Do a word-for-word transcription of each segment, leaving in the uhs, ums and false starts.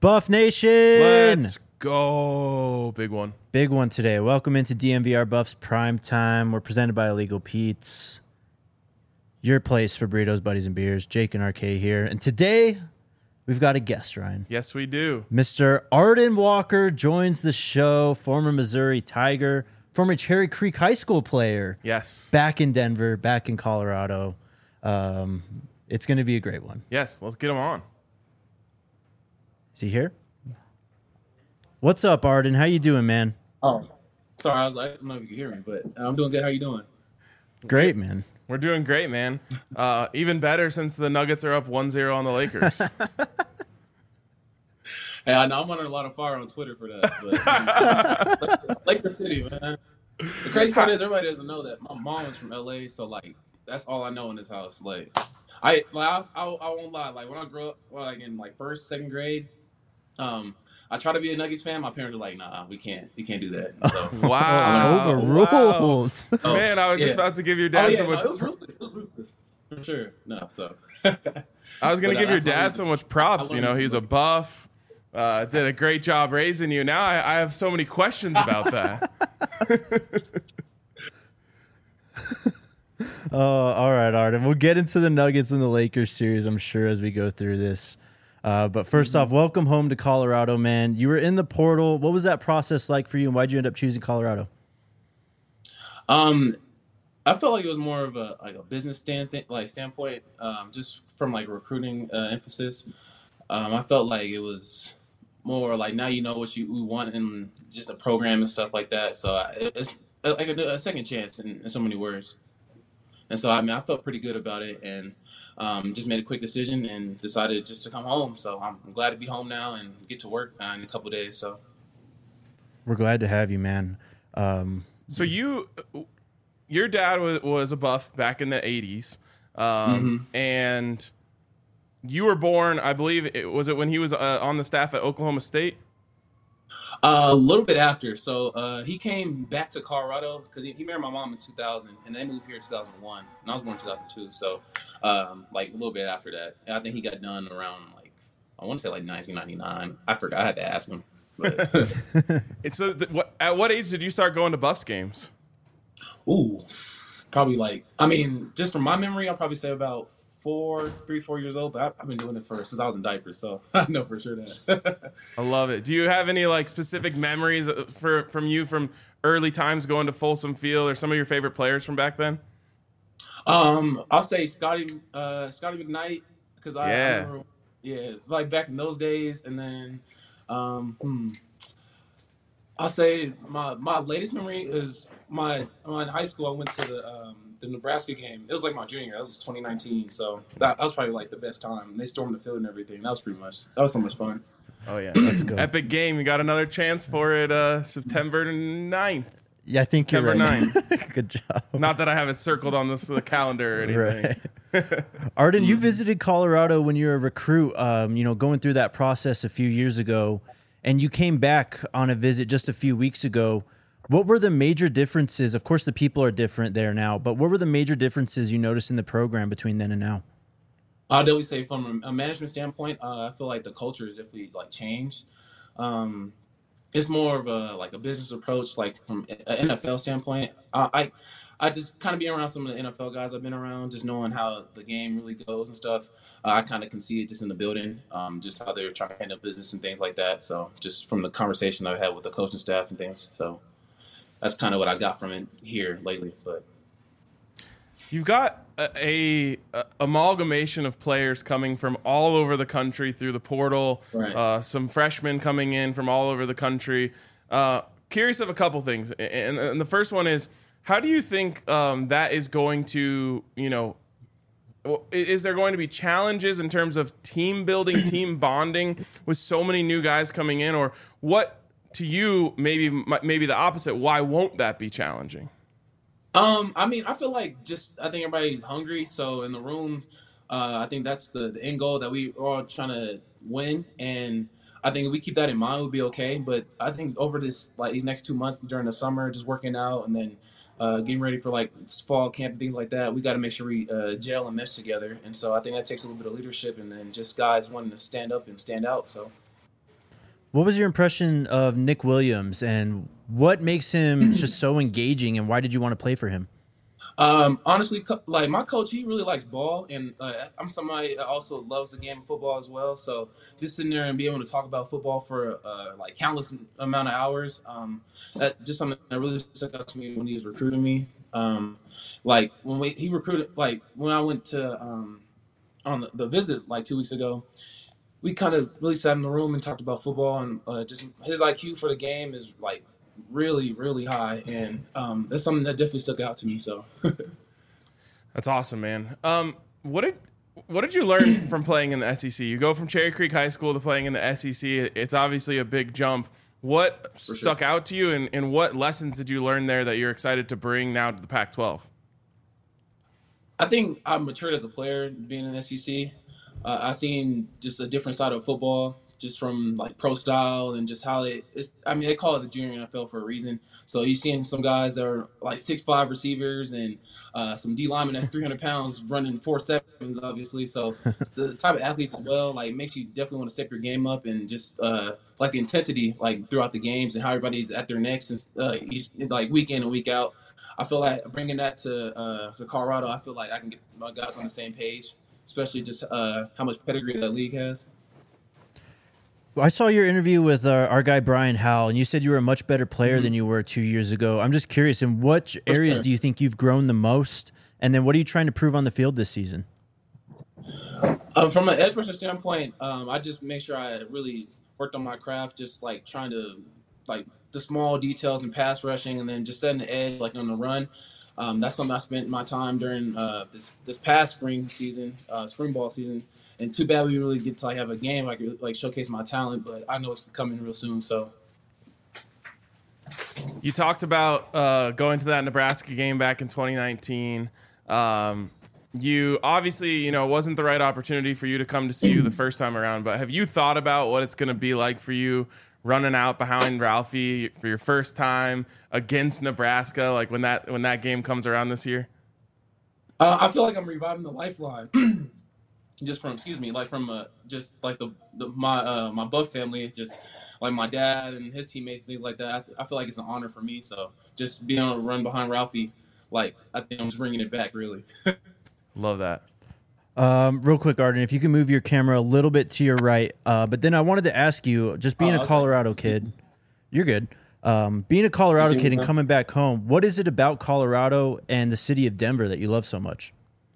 Buff Nation! Let's go. Big one. Big one today. Welcome into D M V R Buffs Prime Time. We're presented by Illegal Pete's. Your place for burritos, buddies, and beers. Jake and R K here. And today, we've got a guest, Ryan. Yes, we do. Mister Arden Walker joins the show. Former Missouri Tiger. Former Cherry Creek High School player. Yes. Back in Denver. Back in Colorado. Um, it's going to be a great one. Yes, let's get him on. Is he here? What's up, Arden? How you doing, man? Oh, sorry. I was like, I don't know if you can hear me, but I'm doing good. How you doing? Great, man. We're doing great, man. Uh, even better since the Nuggets are up one zero on the Lakers. Hey, I know I'm under a lot of fire on Twitter for that. But Laker City, man. The crazy part is everybody doesn't know that my mom is from L A, so like that's all I know in this house. Like, I like I, I, I won't lie. Like when I grew up, well, like in like first, second grade, um. I try to be a Nuggets fan. My parents are like, "Nah, we can't. We can't do that." So, wow, overruled. Wow. Oh, Man, I was yeah. just about to give your dad oh, yeah, so no, much. it was ruthless. It was ruthless for sure. No, so I was gonna But, uh, give your that's my dad reason. so much props. I You know, learned- he's a buff. Uh, did a great job raising you. Now I, I have so many questions about that. Oh, all right, Arden. We'll get into the Nuggets and the Lakers series, I'm sure, as we go through this. Uh, but first Mm-hmm. off, welcome home to Colorado, man. You were in the portal. What was that process like for you, and why'd you end up choosing Colorado? Um, I felt like it was more of a like a business stand th- like standpoint, um, just from like recruiting uh, emphasis. Um, I felt like it was more like now you know what you we want in just a program and stuff like that. So I, it's like a, a second chance in, in so many words. And so I mean I felt pretty good about it and um, just made a quick decision and decided just to come home. So I'm, I'm glad to be home now and get to work uh, in a couple of days. So We're glad to have you, man. Um, So you, your dad was, was a buff back in the eighties, um, and you were born, I believe, it, was it when he was uh, on the staff at Oklahoma State? Uh, a little bit after. So uh, he came back to Colorado because he, he married my mom in two thousand, and they moved here in two thousand one, and I was born in two thousand two. So um, like a little bit after that, and I think he got done around like I want to say like nineteen ninety-nine. I forgot. I had to ask him. But It's a, th- what, at what age did you start going to Buffs games? ooh, probably like I mean, just from my memory, I'll probably say about four, three, four years old. But I, I've been doing it for since I was in diapers, so I know for sure that. I love it. Do you have any like specific memories uh, for from you from early times going to Folsom Field, or some of your favorite players from back then? Um, I'll say Scotty, uh, Scotty McKnight, because I, I Yeah. remember, yeah, like back in those days, and then, um, hmm, I'll say my my latest memory is my my in high school. I went to the um, the Nebraska game. It was like my junior. That was twenty nineteen, so that, that was probably like the best time. They stormed the field and everything. That was pretty much that was so much fun. Oh yeah, Let's go. Epic game. You got another chance for it uh, September ninth. yeah, I think you're September right. Good job. Not that I have it circled on this uh, calendar or anything. Right. Arden, you visited Colorado when you were a recruit, um, you know, going through that process a few years ago, and you came back on a visit just a few weeks ago. What were the major differences? Of course, the people are different there now, but what were the major differences you noticed in the program between then and now? I'll definitely say from a management standpoint, uh, I feel like the culture is definitely like changed. Um, it's more of a like a business approach, like from an N F L standpoint. I I, I just kind of being around some of the N F L guys I've been around, just knowing how the game really goes and stuff. Uh, I kind of can see it just in the building, um, just how they're trying to handle business and things like that. So just from the conversation I've had with the coaching staff and things, so that's kind of what I got from it here lately. But You've got a, a, a amalgamation of players coming from all over the country through the portal. Right. Uh, some freshmen coming in from all over the country. Uh, curious of a couple things, and, and the first one is, how do you think um, that is going to, you know, is there going to be challenges in terms of team building, team bonding with so many new guys coming in, or what to you maybe maybe the opposite? Why won't that be challenging? Um, I mean, I feel like just I think everybody's hungry. So in the room, uh, I think that's the, the end goal that we are all trying to win. And I think if we keep that in mind, we'll be okay. But I think over this like these next two months during the summer, just working out and then uh, getting ready for like fall camp and things like that, we got to make sure we uh, gel and mesh together. And so I think that takes a little bit of leadership and then just guys wanting to stand up and stand out. So. What was your impression of Nick Williams, and what makes him just so engaging, and why did you want to play for him? Um, honestly, co- like my coach, he really likes ball, and uh, I'm somebody that also loves the game of football as well. So just sitting there and be able to talk about football for uh, like countless amount of hours, um, that just something that really stuck out to me when he was recruiting me. Um, like when we, he recruited, like when I went to um, on the, the visit like two weeks ago, we kind of really sat in the room and talked about football, and uh, just his I Q for the game is like really, really high, and um, that's something that definitely stuck out to me. So. That's awesome, man. Um, what did what did you learn from playing in the S E C? You go from Cherry Creek High School to playing in the S E C. It's obviously a big jump. What For stuck sure. out to you, and, and what lessons did you learn there that you're excited to bring now to the Pac twelve? I think I matured as a player being in S E C. Uh, I seen just a different side of football, just from like pro style and just how it is. I mean, they call it the junior N F L for a reason. So you seeing some guys that are like six five receivers and uh, some D linemen that's three hundred pounds running four sevens, obviously. So the type of athletes as well, like makes you definitely want to step your game up and just uh, like the intensity like throughout the games and how everybody's at their necks and uh, each, like week in and week out. I feel like bringing that to uh, to Colorado, I feel like I can get my guys on the same page, especially just uh, how much pedigree that league has. I saw your interview with our, our guy Brian Howell, and you said you were a much better player mm-hmm. than you were two years ago. I'm just curious, in what areas do you think you've grown the most? And then what are you trying to prove on the field this season? Um, from an edge rusher standpoint, um, I just make sure I really worked on my craft, just like trying to like the small details in pass rushing, and then just setting the edge like on the run. Um, that's something I spent my time during uh, this this past spring season, uh, spring ball season. And too bad we really get to like have a game like like showcase my talent, but I know it's coming real soon. So you talked about uh, going to that Nebraska game back in twenty nineteen. Um, you obviously, you know, it wasn't the right opportunity for you to come to C U the first time around. But have you thought about what it's going to be like for you running out behind Ralphie for your first time against Nebraska, like when that when that game comes around this year? Uh, I feel like I'm reviving the lifeline. Just from, excuse me, like from uh, just like the, the my uh, my Buff family, just like my dad and his teammates, things like that. I, I feel like it's an honor for me. So just being able to run behind Ralphie, like I think I'm just bringing it back, really. Love that. Um, real quick, Arden, if you can move your camera a little bit to your right. Uh, but then I wanted to ask you, just being oh, a Colorado like, kid, you're good. Um, being a Colorado kid and coming back home, what is it about Colorado and the city of Denver that you love so much?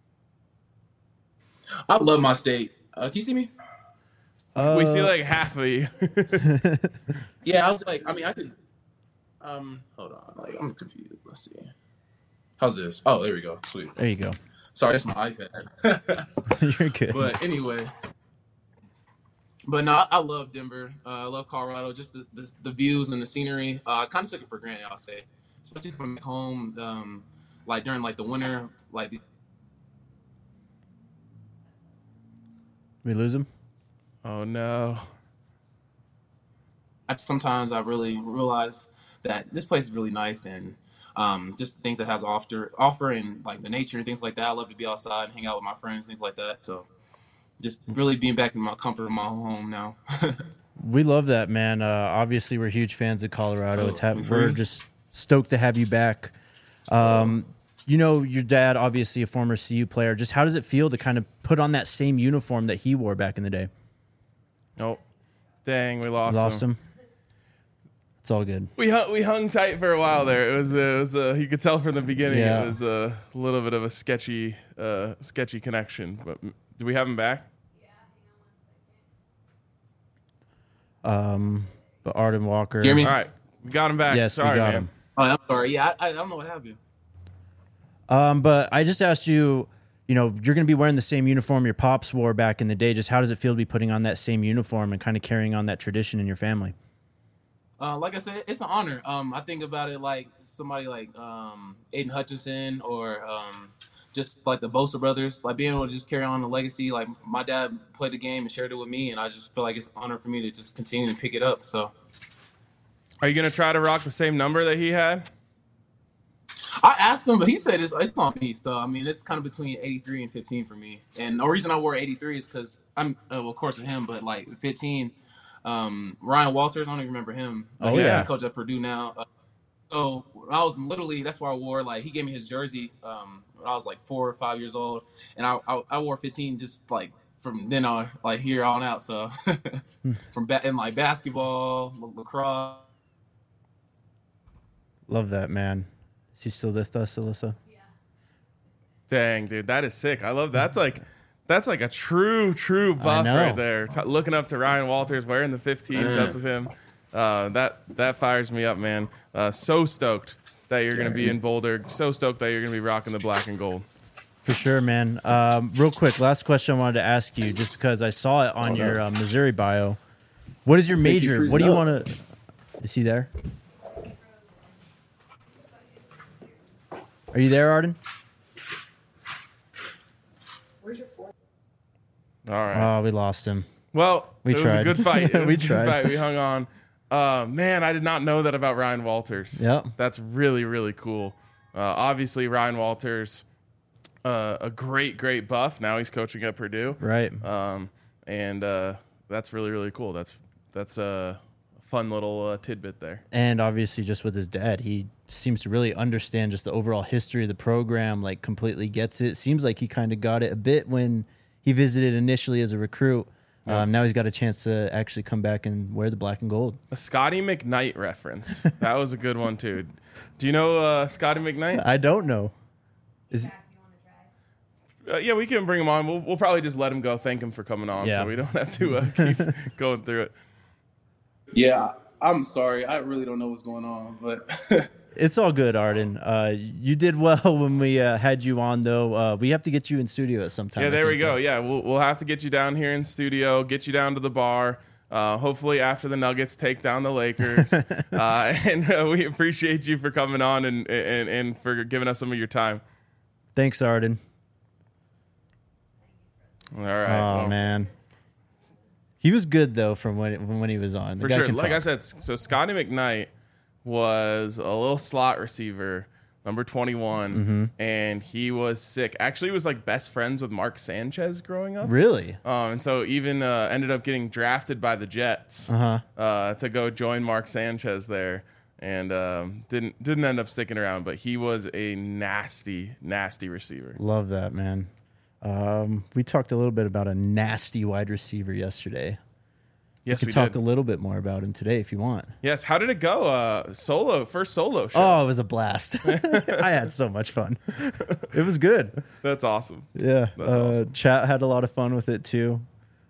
I love my state. Uh, can you see me? Uh, we see like half of you. Yeah, I was like, I mean, I can. Um, hold on, like I'm confused. Let's see. How's this? Oh, there we go. Sweet. There you go. Sorry, that's my iPad. You're good. But anyway, but no, I, I love Denver. Uh, I love Colorado. Just the, the, the views and the scenery. Uh, I kind of took it for granted, I'll say, especially from home. Um, like during like the winter, like. The, We lose him? Oh, no. I, sometimes I really realize that this place is really nice and um, just things that has offer, offer and like the nature and things like that. I love to be outside and hang out with my friends, things like that. So just really being back in my comfort of my home now. We love that, man. Uh, obviously, we're huge fans of Colorado. Oh, it's ha- we're just stoked to have you back. Um, You know, your dad, obviously a former C U player. Just how does it feel to kind of put on that same uniform that he wore back in the day? Nope. Dang, we lost, lost him. him. It's all good. We hung, we hung tight for a while there. It was, uh, it was uh, you could tell from the beginning yeah. it was a little bit of a sketchy, uh, sketchy connection. But do we have him back? Um, but Arden Walker. Hear me? All right, we got him back. Yes, sorry, we got man. him. Oh, I'm sorry. Yeah, I, I don't know what happened. Um, but I just asked you, you know, you're going to be wearing the same uniform your pops wore back in the day. Just how does it feel to be putting on that same uniform and kind of carrying on that tradition in your family? Uh, like I said, it's an honor. Um, I think about it like somebody like um, Aiden Hutchinson or um, just like the Bosa brothers, like being able to just carry on the legacy. Like my dad played the game and shared it with me, and I just feel like it's an honor for me to just continue to pick it up. So, are you going to try to rock the same number that he had? I asked him, but he said it's, it's on me. So, I mean, it's kind of between eighty-three and fifteen for me. And the reason I wore eighty-three is because I'm, uh, well, of course, with him, but like fifteen, Um, Ryan Walters, I don't even remember him. Oh, He- yeah. he coaches at Purdue now. Uh, so when I was in Little League, that's where I wore, like, he gave me his jersey um, when I was like four or five years old. And I, I, I wore fifteen just like from then on, like here on out. So from ba- in like basketball, la- lacrosse. Love that, man. Is he still with us, Alyssa? Dang, dude, that is sick. I love that's like that's like a true, true buff know. right there. T- looking up to Ryan Walters, wearing the fifteen because of him. Uh, that that fires me up, man. Uh, so stoked that you're gonna be in Boulder. So stoked that you're gonna be rocking the black and gold. For sure, man. Um, real quick, last question I wanted to ask you, just because I saw it on Oh, no. your uh, Missouri bio. What is your Thank you, major? freezing What do you up. want to? Is he there? Are you there, Arden? All right. Oh, we lost him. Well, we it was tried. a good fight. It was We a good tried. fight. We hung on. Uh, man, I did not know that about Ryan Walters. Yep. That's really, really cool. Uh, obviously, Ryan Walters, uh, a great, great buff. Now he's coaching at Purdue. Right. Um, and uh, that's really, really cool. That's that's a fun little uh, tidbit there. And obviously, just with his dad, he seems to really understand just the overall history of the program. Like, completely gets it. Seems like he kind of got it a bit when he visited initially as a recruit. Yeah. Um, now he's got a chance to actually come back and wear the black and gold. A Scotty McKnight reference. That was a good one, too. Do you know uh, Scotty McKnight? I don't know. Is Uh, yeah, we can bring him on. We'll, we'll probably just let him go. Thank him for coming on, Yeah. so we don't have to uh, keep going through it. Yeah, I'm sorry. I really don't know what's going on, but It's all good, Arden. Uh, you did well when we uh, had you on, though. Uh, we have to get you in studio at some time. Yeah, I there we think, go. though. Yeah, we'll we'll have to get you down here in studio, get you down to the bar. Uh, hopefully, after the Nuggets take down the Lakers, uh, and uh, we appreciate you for coming on and, and and for giving us some of your time. Thanks, Arden. All right. Oh well, man, he was good though from when from when he was on. The for guy sure. can Like I talk. said, so Scotty McKnight was a little slot receiver, number twenty-one, Mm-hmm. and he was sick. Actually, he was like best friends with Mark Sanchez growing up. Really? Um, and so even uh, ended up getting drafted by the Jets Uh-huh. uh, to go join Mark Sanchez there, and um, didn't didn't end up sticking around. But he was a nasty, nasty receiver. Love that, man. Um, we talked a little bit about a nasty wide receiver yesterday. Yes, we we could talk did. a little bit more about him today if you want. Yes, how did it go? Uh, solo first solo show. Oh, it was a blast. I had so much fun. It was good. That's awesome. Yeah. That's uh, awesome. Chat had a lot of fun with it too.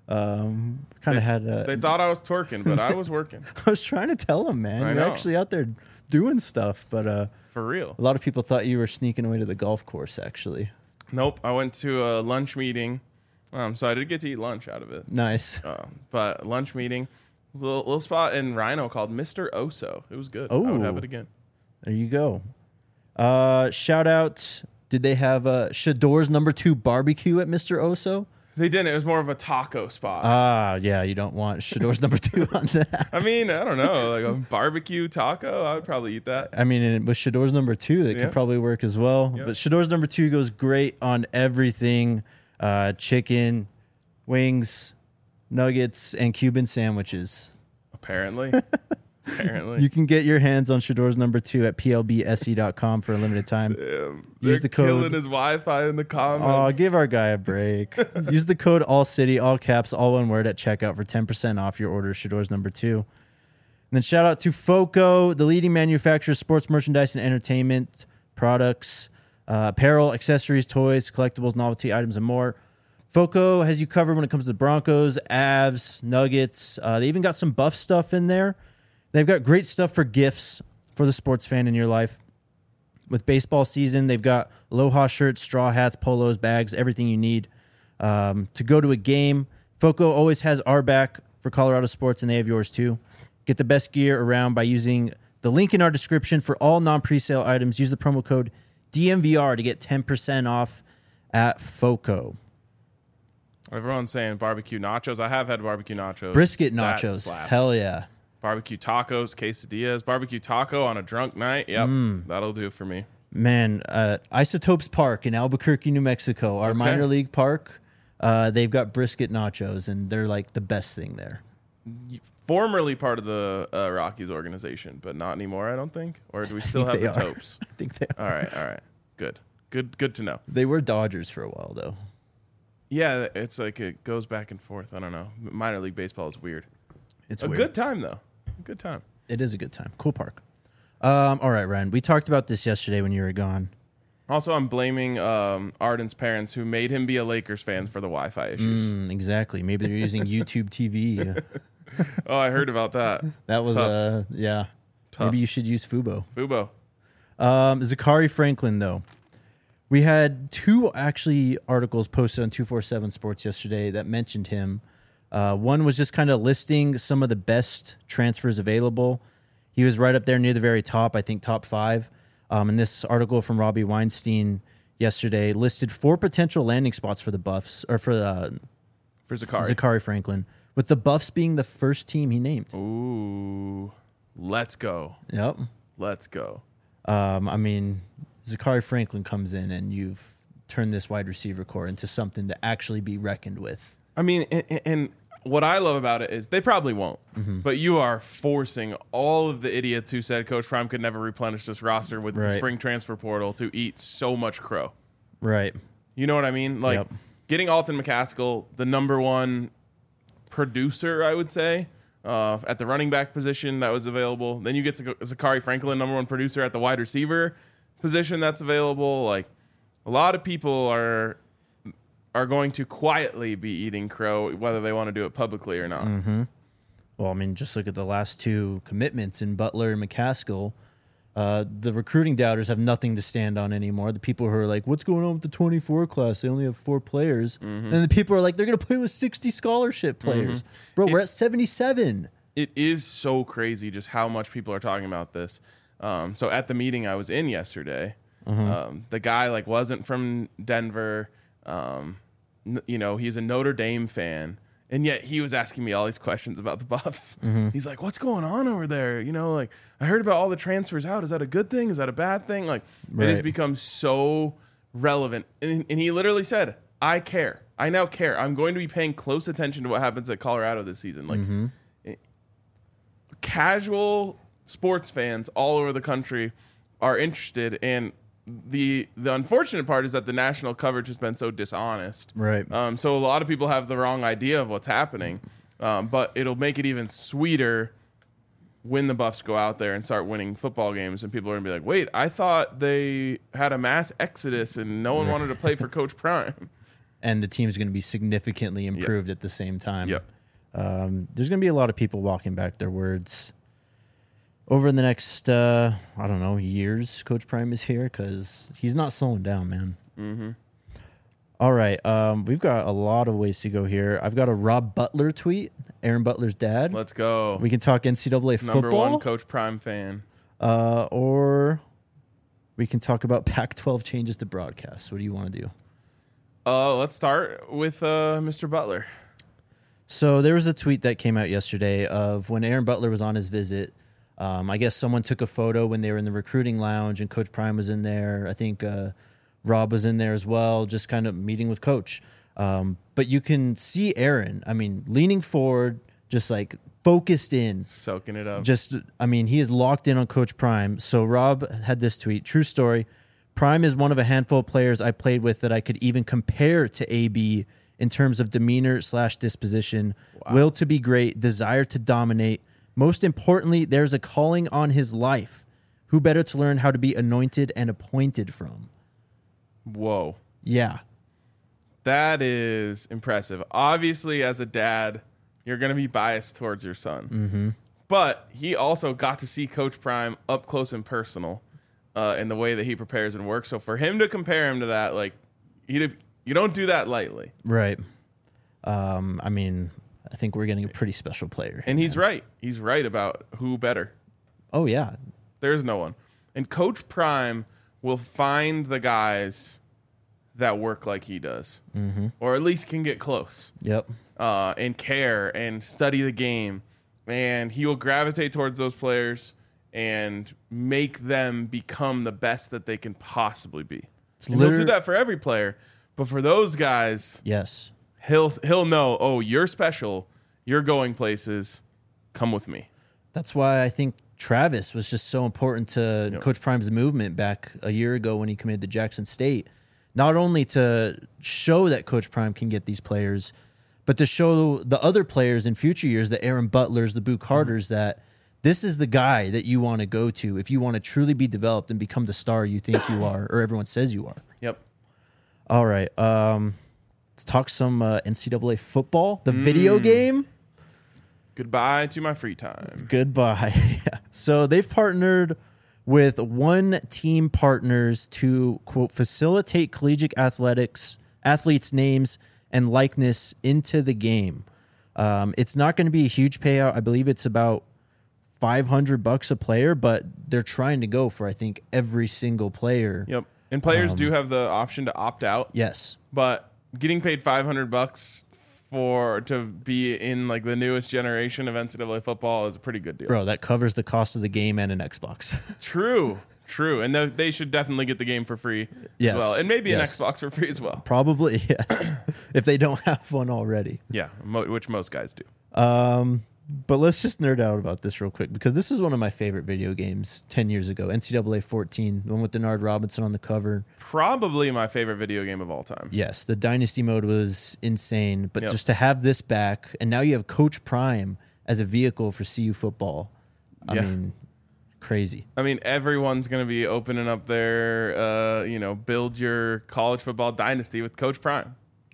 Um, kind of had a, They thought I was twerking, but I was working I was trying to tell him, man. I You're know. actually out there doing stuff, but uh, for real. a lot of people thought you were sneaking away to the golf course, actually. Nope, I went to a lunch meeting, um, so I did get to eat lunch out of it. Nice. Um, but lunch meeting, little, little spot in Rhino called Mister Oso. It was good. I would have Oh. it again. There you go. Uh, shout out. Did they have uh, Shador's number two barbecue at Mister Oso? They didn't. It was more of a taco spot. Ah, yeah, you don't want Shador's number two on that. I mean, I don't know, like a barbecue taco. I would probably eat that. I mean, and with Shador's number two, that Yeah. could probably work as well. Yeah. But Shador's number two goes great on everything: uh, chicken, wings, nuggets, and Cuban sandwiches. Apparently, apparently. You can get your hands on Shador's number two at P L B S E dot com for a limited time. Damn, Use they're the code- killing his Wi-Fi in the comments. Oh, give our guy a break. Use the code all city, all caps, all one word at checkout for ten percent off your order. Shador's number two. And then shout out to FOCO, the leading manufacturer of sports merchandise and entertainment products, uh, apparel, accessories, toys, collectibles, novelty items, and more. FOCO has you covered when it comes to the Broncos, Avs, Nuggets. Uh, they even got some buff stuff in there. They've got great stuff for gifts for the sports fan in your life. With baseball season, they've got Aloha shirts, straw hats, polos, bags, everything you need um, to go to a game. FOCO always has our back for Colorado sports, and they have yours too. Get the best gear around by using the link in our description for all non-presale items. Use the promo code D M V R to get ten percent off at FOCO. Everyone's saying barbecue nachos. I have had barbecue nachos. Brisket That nachos. slaps. Hell yeah. Barbecue tacos, quesadillas, barbecue taco on a drunk night. Yep, Mm. that'll do for me. Man, uh, Isotopes Park in Albuquerque, New Mexico, our Okay. minor league park, uh, they've got brisket nachos, and they're like the best thing there. formerly part of the uh, Rockies organization, but not anymore, I don't think. Or do we still have the they are. Topes? I think they are. All right, all right. Good. Good good to know. They were Dodgers for a while, though. Yeah, it's like it goes back and forth. I don't know. Minor league baseball is weird. It's a weird. good time, though. A good time. It is a good time. Cool park. Um, all right, Ryan. We talked about this yesterday when you were gone. Also, I'm blaming um, Arden's parents who made him be a Lakers fan for the Wi-Fi issues. Mm, exactly. Maybe they're using YouTube T V. Oh, I heard about that. That was, Tough. uh, yeah. Tough. Maybe you should use Fubo. Fubo. Um, Zachary Franklin, though. We had two actually articles posted on two forty-seven Sports yesterday that mentioned him. Uh, one was just kind of listing some of the best transfers available. He was right up there near the very top, I think top five. Um, and this article from Robbie Weinstein yesterday listed four potential landing spots for the Buffs, or for uh, For Zachary. Zachary Franklin, with the Buffs being the first team he named. Ooh. Let's go. Yep. Let's go. Um, I mean, Zachary Franklin comes in and you've turned this wide receiver core into something to actually be reckoned with. I mean, and, and what I love about it is they probably won't, Mm-hmm. but you are forcing all of the idiots who said Coach Prime could never replenish this roster with the Right. spring transfer portal to eat so much crow. Right. You know what I mean? Like Yep. getting Alton McCaskill, the number one producer, I would say, uh, at the running back position that was available. Then you get Zach- Zachary Franklin, number one producer at the wide receiver position that's available. Like a lot of people are are going to quietly be eating crow, whether they want to do it publicly or not. Mm-hmm. Well, I mean, just look at the last two commitments in Butler and McCaskill. Uh, the recruiting doubters have nothing to stand on anymore. The people who are like, what's going on with the twenty-four class? They only have four players. Mm-hmm. And the people are like, they're going to play with sixty scholarship players. Bro, we're It- at seventy-seven. It is so crazy just how much people are talking about this. Um, so at the meeting I was in yesterday, um, the guy like wasn't from Denver. Um, n- you know, he's a Notre Dame fan, and yet he was asking me all these questions about the Buffs. He's like, "What's going on over there?" You know, like I heard about all the transfers out. Is that a good thing? Is that a bad thing? Like it has Right. become so relevant, and, and he literally said, "I care. I now care. I'm going to be paying close attention to what happens at Colorado this season." Like. Casual sports fans all over the country are interested, and the the unfortunate part is that the national coverage has been so dishonest. Right. Um, so a lot of people have the wrong idea of what's happening, um, but it'll make it even sweeter when the Buffs go out there and start winning football games, and people are gonna be like, "Wait, I thought they had a mass exodus and no one wanted to play for Coach Prime." And the team's going to be significantly improved at the same time. Yep. Um, there's going to be a lot of people walking back their words over the next, uh, I don't know, years. Coach Prime is here because he's not slowing down, man. Mm-hmm. All right. Um, we've got a lot of ways to go here. I've got a Rob Butler tweet, Aaron Butler's dad. Let's go. We can talk N C double A Number football, one Coach Prime fan. uh, or we can talk about Pac twelve changes to broadcast. What do you want to do? Uh, let's start with uh, Mister Butler. So there was a tweet that came out yesterday of when Aaron Butler was on his visit. Um, I guess someone took a photo when they were in the recruiting lounge, and Coach Prime was in there. I think uh, Rob was in there as well, just kind of meeting with Coach. Um, but you can see Aaron, I mean, leaning forward, just like focused in. Soaking it up. Just, I mean, he is locked in on Coach Prime. So Rob had this tweet, true story. Prime is one of a handful of players I played with that I could even compare to A B in terms of demeanor slash disposition, Wow. will to be great, desire to dominate. Most importantly, there's a calling on his life. Who better to learn how to be anointed and appointed from? Whoa. Yeah. That is impressive. Obviously, as a dad, you're going to be biased towards your son. Mm-hmm. But he also got to see Coach Prime up close and personal uh, in the way that he prepares and works. So for him to compare him to that, like, he'd, you don't do that lightly. Right. Um, I mean, I think we're getting a pretty special player. And he's right. He's right about who better. Oh, yeah. There's no one. And Coach Prime will find the guys that work like he does, Mm-hmm. or at least can get close. Yep. Uh, and care and study the game. And he will gravitate towards those players and make them become the best that they can possibly be. It's And he'll do liter- that for every player. But for those guys, Yes. he'll he'll know, oh, you're special. You're going places. Come with me. That's why I think Travis was just so important to Yep. Coach Prime's movement back a year ago when he committed to Jackson State. Not only to show that Coach Prime can get these players, but to show the other players in future years, the Aaron Butlers, the Boo Carters, mm-hmm. that this is the guy that you want to go to if you want to truly be developed and become the star you think you are or everyone says you are. Yep. All right. Um, let's talk some uh, N C double A football, the mm. video game. Goodbye to my free time. Goodbye. Yeah. So they've partnered with One Team Partners to, quote, facilitate collegiate athletics, athletes' names and likeness into the game. Um, it's not going to be a huge payout. I believe it's about five hundred bucks a player, but they're trying to go for, I think, every single player. Yep. And players Um, do have the option to opt out. Yes. But getting paid five hundred bucks for to be in like the newest generation of N C double A football is a pretty good deal. Bro, that covers the cost of the game and an Xbox. True. True. And th- they should definitely get the game for free Yes. as well. And maybe Yes. an Xbox for free as well. Probably, yes. If they don't have one already. Yeah, mo- which most guys do. Um, but let's just nerd out about this real quick because this is one of my favorite video games ten years ago. N C double A fourteen, the one with Denard Robinson on the cover. Probably my favorite video game of all time. Yes, the Dynasty mode was insane. But Yep. just to have this back, and now you have Coach Prime as a vehicle for C U football. I Yeah. mean, crazy. I mean, everyone's going to be opening up their, uh, you know, build your college football dynasty with Coach Prime.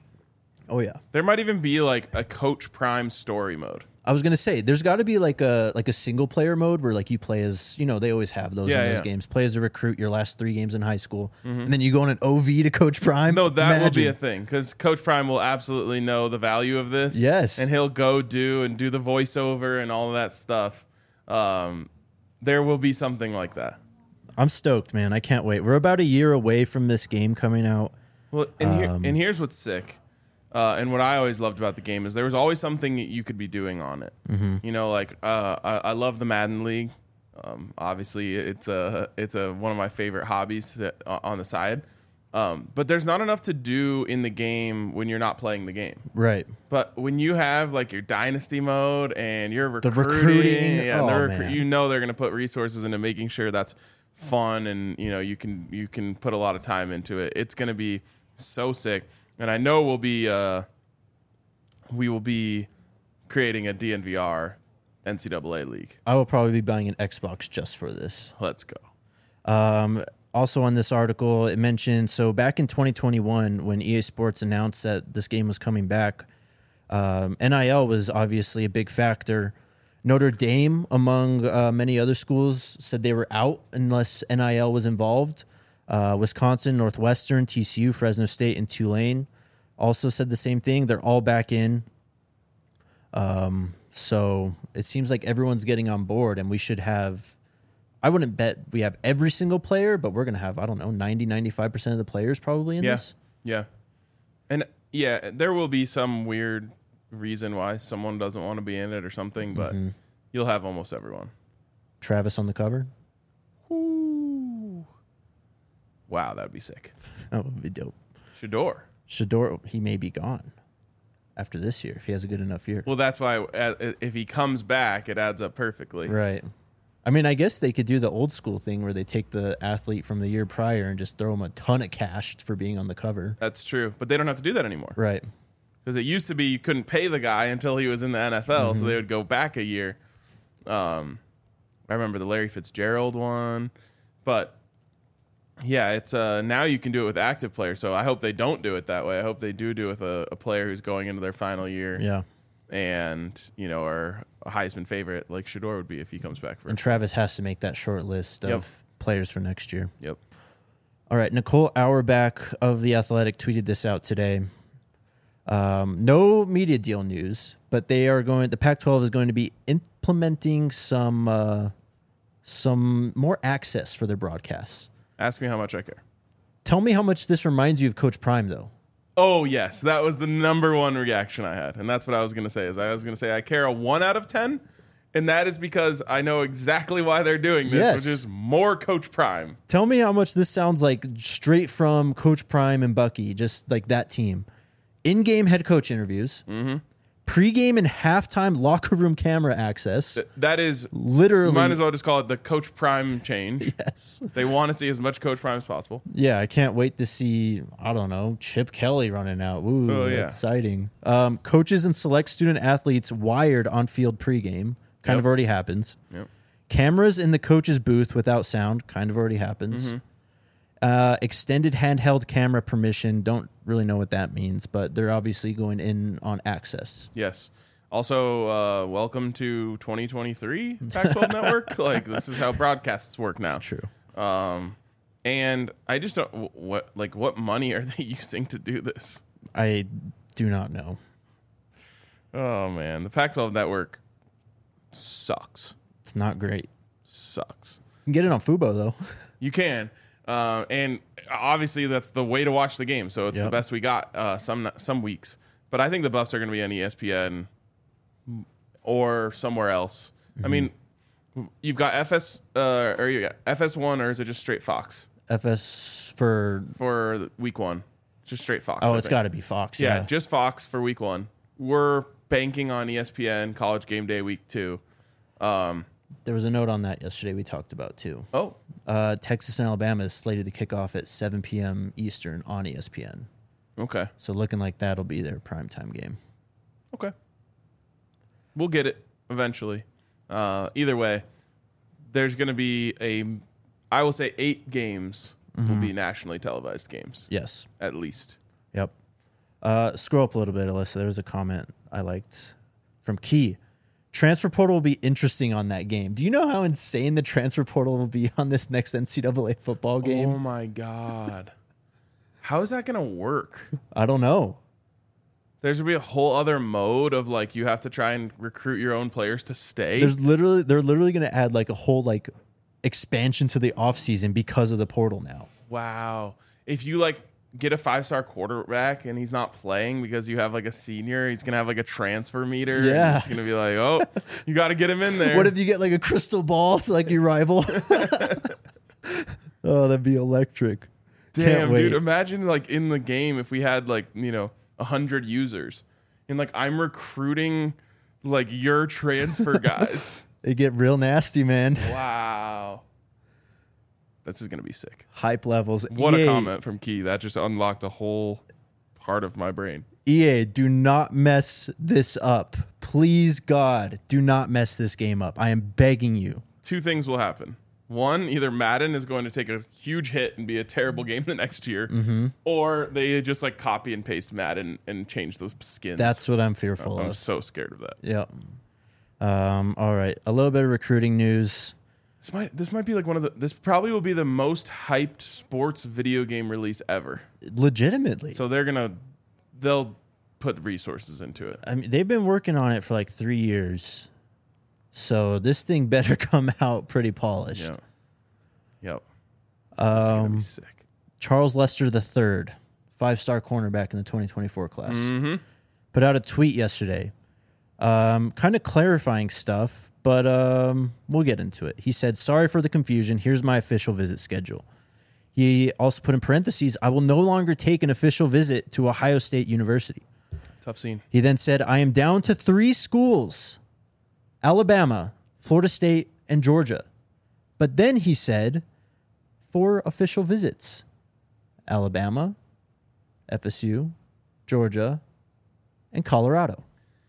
Oh, yeah. There might even be like a Coach Prime story mode. I was gonna say there's got to be like a like a single player mode where like you play as, you know, they always have those Yeah, in those yeah. games. Play as a recruit your last three games in high school, and then you go on an O V to Coach Prime. No, that will be Imagine. a thing because Coach Prime will absolutely know the value of this. Yes. And he'll go do and do the voiceover and all of that stuff. Um, there will be something like that. I'm stoked, man. I can't wait. We're about a year away from this game coming out. Well, and, here, Um, and here's what's sick. Uh, and what I always loved about the game is there was always something you could be doing on it. Mm-hmm. You know, like uh, I, I love the Madden League. Um, obviously, it's a it's a one of my favorite hobbies that, uh, on the side. Um, but there's not enough to do in the game when you're not playing the game. Right. But when you have like your dynasty mode and you're recruiting, recruiting, yeah, oh, they're man. you know they're going to put resources into making sure that's fun and you know you can you can put a lot of time into it. It's going to be so sick. And I know we'll be uh, we will be creating a D N V R N C double A league. I will probably be buying an Xbox just for this. Let's go. Um, also on this article, it mentioned, so back in twenty twenty-one, when E A Sports announced that this game was coming back, um, N I L was obviously a big factor. Notre Dame, among uh, many other schools, said they were out unless N I L was involved. Uh, Wisconsin, Northwestern, T C U, Fresno State, and Tulane also said the same thing. They're all back in. Um, so it seems like everyone's getting on board, and we should have, I wouldn't bet we have every single player, but we're going to have, I don't know, ninety, ninety-five percent of the players probably in Yeah. this. Yeah. And yeah, there will be some weird reason why someone doesn't want to be in it or something, but Mhm. you'll have almost everyone. Travis on the cover. Ooh. Wow, that'd be sick. That would be dope. Shador. Shador, he may be gone after this year if he has a good enough year. Well, that's why uh, if he comes back, it adds up perfectly. Right. I mean, I guess they could do the old school thing where they take the athlete from the year prior and just throw him a ton of cash for being on the cover. That's true. But they don't have to do that anymore. Right. Because it used to be you couldn't pay the guy until he was in the N F L, Mm-hmm. so they would go back a year. Um, I remember the Larry Fitzgerald one. But yeah, it's uh, now you can do it with active players. So I hope they don't do it that way. I hope they do do it with a, a player who's going into their final year Yeah. and, you know, are a Heisman favorite like Shador would be if he comes back for And Travis has to make that short list of Yep. players for next year. Yep. All right. Nicole Auerbach of The Athletic tweeted this out today. Um, no media deal news, but they are going, the Pac twelve is going to be implementing some, uh, some more access for their broadcasts. Ask me how much I care. Tell me how much this reminds you of Coach Prime, though. Oh, yes. That was the number one reaction I had. And that's what I was going to say is I was going to say I care a one out of ten. And that is because I know exactly why they're doing this, Yes. which is more Coach Prime. Tell me how much this sounds like straight from Coach Prime and Bucky, just like that team. In-game head coach interviews, Mm-hmm. Pre-game and halftime locker room camera access. Th- that is Literally. Might as well just call it the Coach Prime change. Yes. They want to see as much Coach Prime as possible. Yeah, I can't wait to see, I don't know, Chip Kelly running out. Ooh, Oh, yeah. exciting. Um, coaches and select student athletes wired on field pregame. Kind Yep. of already happens. Yep. Cameras in the coach's booth without sound. Kind of already happens. Mm-hmm. Uh, extended handheld camera permission. Don't really know what that means, but they're obviously going in on access. Yes. Also, uh, welcome to twenty twenty-three Pac twelve Network. Like, this is how broadcasts work now. That's true. Um, and I just don't wh- what like what money are they using to do this? I do not know. Oh man, the Pac twelve Network sucks. It's not great. Sucks. You can get it on Fubo, though. You can, uh, and obviously that's the way to watch the game. So it's the Yep. best we got uh, some some weeks. But I think the Buffs are going to be on E S P N or somewhere else. Mm-hmm. I mean, you've got F S uh, or you got F S one, or is it just straight Fox F S for... for week one? Just straight Fox. Oh, I it's think. got to be Fox. Yeah, Yeah. just Fox for week one. We're banking on E S P N College Game Day week two. Um, There was a note on that yesterday we talked about, too. oh, Uh, Texas and Alabama is slated to kick off at seven p.m. Eastern on E S P N. okay, So looking like that'll be their primetime game. okay. We'll get it eventually. Uh, either way, there's going to be a, I will say, eight games will be nationally televised games, Yes. at least. Yep. Uh, scroll up a little bit, Alyssa. There was a comment I liked from Key. Transfer portal will be interesting on that game. Do you know how insane the transfer portal will be on this next N C double A football game? Oh my God. How is that going to work? I don't know. There's going to be a whole other mode of like you have to try and recruit your own players to stay. There's literally they're literally going to add like a whole like expansion to the offseason because of the portal now. Wow. If you like get a five-star quarterback and he's not playing because you have like a senior, he's going to have like a transfer meter. Yeah. He's going to be like, oh, you got to get him in there. What if you get like a crystal ball to like your rival? Oh, that'd be electric. Can't Damn, wait. dude. Imagine like in the game if we had like, you know, one hundred users and like I'm recruiting like your transfer guys. They get real nasty, man. Wow. This is going to be sick. Hype levels. What E A, a comment from Key. That just unlocked a whole part of my brain. E A, do not mess this up. Please, God, do not mess this game up. I am begging you. Two things will happen. One, either Madden is going to take a huge hit and be a terrible game the next year, Mm-hmm. or they just like copy and paste Madden and change those skins. That's what I'm fearful I'm of. so scared of that. Yep. Um, all right. A little bit of recruiting news. This might this might be like one of the this probably will be the most hyped sports video game release ever. Legitimately. So they're gonna they'll put resources into it. I mean, they've been working on it for like three years. So this thing better come out pretty polished. Yeah. Yep. It's gonna Um, be sick. Charles Lester the third, five-star cornerback in the twenty twenty-four class, Mm-hmm. put out a tweet yesterday, um, kind of clarifying stuff, but um, we'll get into it. He said, sorry for the confusion. Here's my official visit schedule. He also put in parentheses, I will no longer take an official visit to Ohio State University. Tough scene. He then said, I am down to three schools, Alabama, Florida State, and Georgia. But then he said, four official visits, Alabama, F S U, Georgia, and Colorado.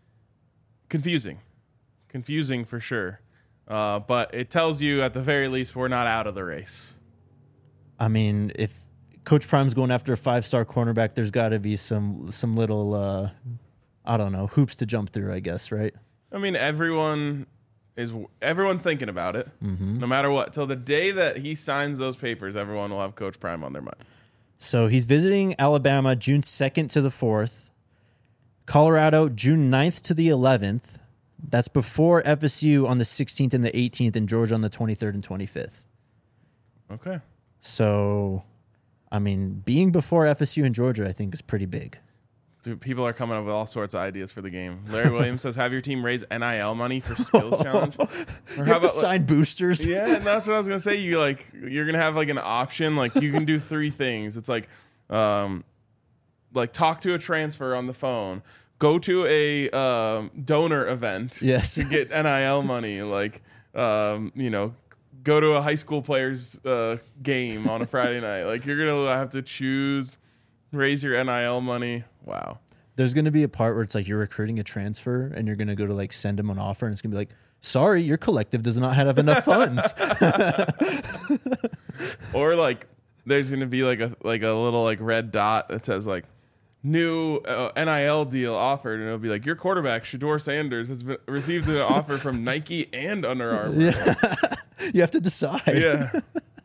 Confusing. Confusing for sure. Uh, but it tells you at the very least we're not out of the race. I mean, if Coach Prime's going after a five-star cornerback, there's got to be some some little, uh, I don't know, hoops to jump through, I guess, right? I mean, everyone is everyone thinking about it, Mm-hmm. no matter what. Till the day that he signs those papers, everyone will have Coach Prime on their mind. So he's visiting Alabama June second to the fourth, Colorado June ninth to the eleventh. That's before F S U on the sixteenth and the eighteenth, and Georgia on the twenty-third and twenty-fifth. Okay. So, I mean, being before F S U and Georgia, I think, is pretty big. Dude, people are coming up with all sorts of ideas for the game. Larry Williams says, have your team raise N I L money for skills challenge. Or You have to sign boosters. Yeah, and that's what I was gonna say. You like you're gonna have like an option. Like you can do three things. It's like, um, like talk to a transfer on the phone, go to a um, donor event Yes. to get N I L money. Like, um, you know, go to a high school players uh, game on a Friday night. Like, you're going to have to choose, raise your N I L money. Wow. There's going to be a part where it's like you're recruiting a transfer and you're going to go to like send them an offer and it's going to be like, sorry, your collective does not have enough funds. Or like there's going to be like a like a little like red dot that says like new uh, N I L deal offered, and it'll be like your quarterback Shedeur Sanders has been, received an offer from Nike and Under Armour. Yeah. You have to decide. Yeah.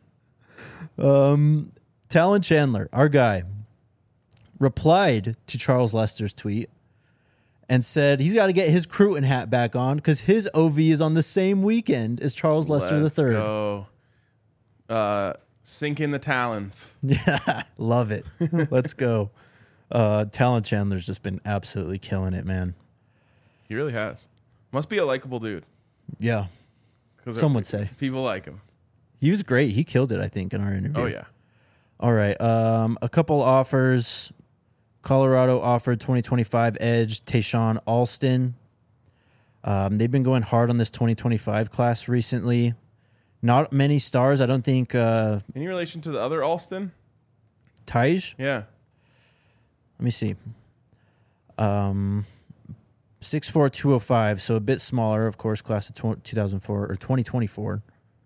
Um, Talon Chandler, our guy, replied to Charles Lester's tweet and said he's got to get his Cruton hat back on because his O V is on the same weekend as Charles Lester Let's the third. Go. Uh, sink in the talons. Yeah, love it. Let's go. Uh, Talon Chandler's just been absolutely killing it, man. He really has. Must be a likable dude. Yeah, 'Cause some would say. People like him. He was great. He killed it, I think, in our interview. Oh, yeah. All right. Um, a couple offers. Colorado offered twenty twenty-five edge Tayshawn Alston. Um, they've been going hard on this twenty twenty-five class recently. Not many stars. I don't think uh, Any relation to the other Alston? Taj. Yeah. Let me see. Um, six four, two oh five, so a bit smaller, of course, class of two thousand four or twenty twenty-four.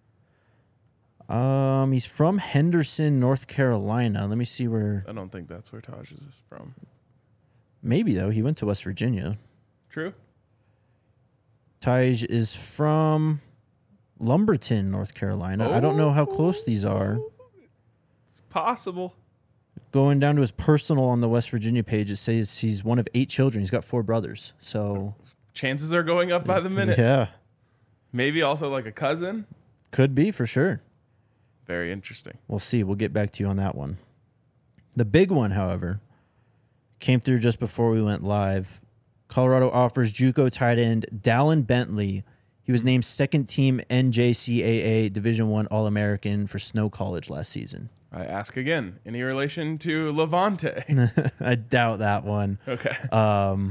Um, he's from Henderson, North Carolina. Let me see where. I don't think that's where Taj is from. Maybe though. He went to West Virginia. True. Taj is from Lumberton, North Carolina. I don't know how close these are. It's possible. Going down to his personal on the West Virginia page, it says he's one of eight children. He's got four brothers. So Chances are going up by the minute. yeah, Maybe also like a cousin. could be for sure. Very interesting. We'll see. We'll get back to you on that one. The big one, however, came through just before we went live. Colorado offers JUCO tight end Dallin Bentley. He was named second team N J C A A Division One All-American for Snow College last season. I ask again, any relation to Levante? I doubt that one. Okay. Um,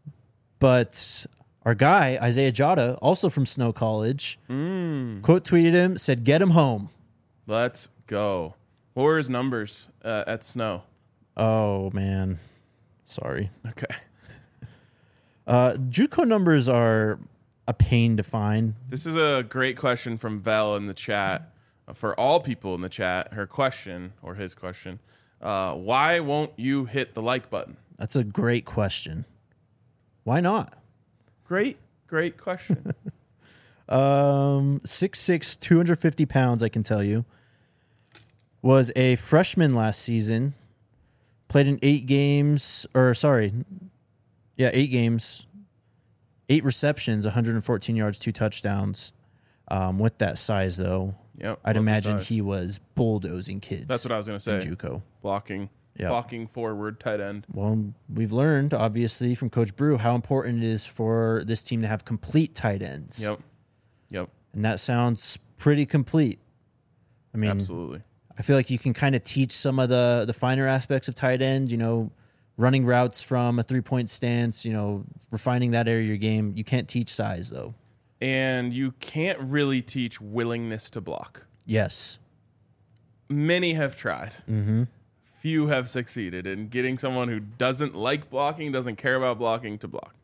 but our guy, Isaiah Jada, also from Snow College, Mm. quote tweeted him, said, "Get him home." Let's go. What were his numbers uh, at Snow? Oh, man. Sorry. Okay. Uh, JUCO numbers are a pain to find. This is a great question from Vel in the chat. Uh, for all people in the chat, her question, or his question, uh, why won't you hit the like button? That's a great question. Why not? Great, great question. Um, six six, two hundred fifty pounds, I can tell you. Was a freshman last season. Played in eight games, or sorry, yeah, eight games. Eight receptions, one hundred fourteen yards, two touchdowns. Um, with that size, though, Yep, I'd love the imagine size. he was bulldozing kids. That's what I was going to say. in JUCO. Blocking, Yeah. blocking forward, tight end. Well, we've learned, obviously, from Coach Brew how important it is for this team to have complete tight ends. Yep, yep, And that sounds pretty complete. I mean, absolutely. I feel like you can kind of teach some of the, the finer aspects of tight end, you know, running routes from a three-point stance, you know, refining that area of your game. You can't teach size, though. And you can't really teach willingness to block. Yes. Many have tried. Mm-hmm. Few have succeeded in getting someone who doesn't like blocking, doesn't care about blocking, to block.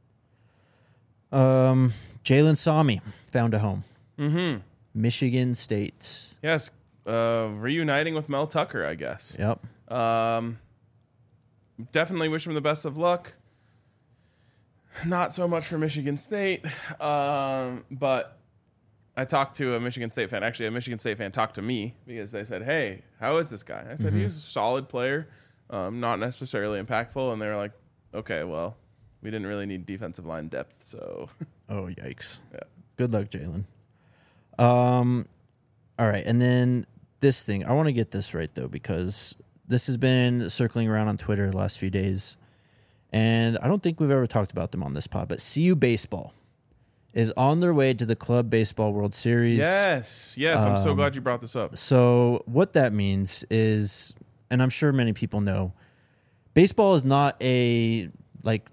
Um, Jalen Sami found a home. Mm-hmm. Michigan State. Yes, uh, reuniting with Mel Tucker, I guess. Yep. Um, definitely wish him the best of luck. Not so much for Michigan State, um, but I talked to a Michigan State fan. Actually, a Michigan State fan talked to me because they said, "Hey, how is this guy?" I said, Mhm. "He was a solid player, um, not necessarily impactful." And they were like, "Okay, well, we didn't really need defensive line depth, so." Oh, yikes. Yeah. Good luck, Jalen. Um, all right. And then this thing, I want to get this right, though, because this has been circling around on Twitter the last few days. And I don't think we've ever talked about them on this pod, but C U Baseball is on their way to the Club Baseball World Series. Yes, yes, I'm so Um, glad you brought this up. So what that means is, and I'm sure many people know, baseball is not a like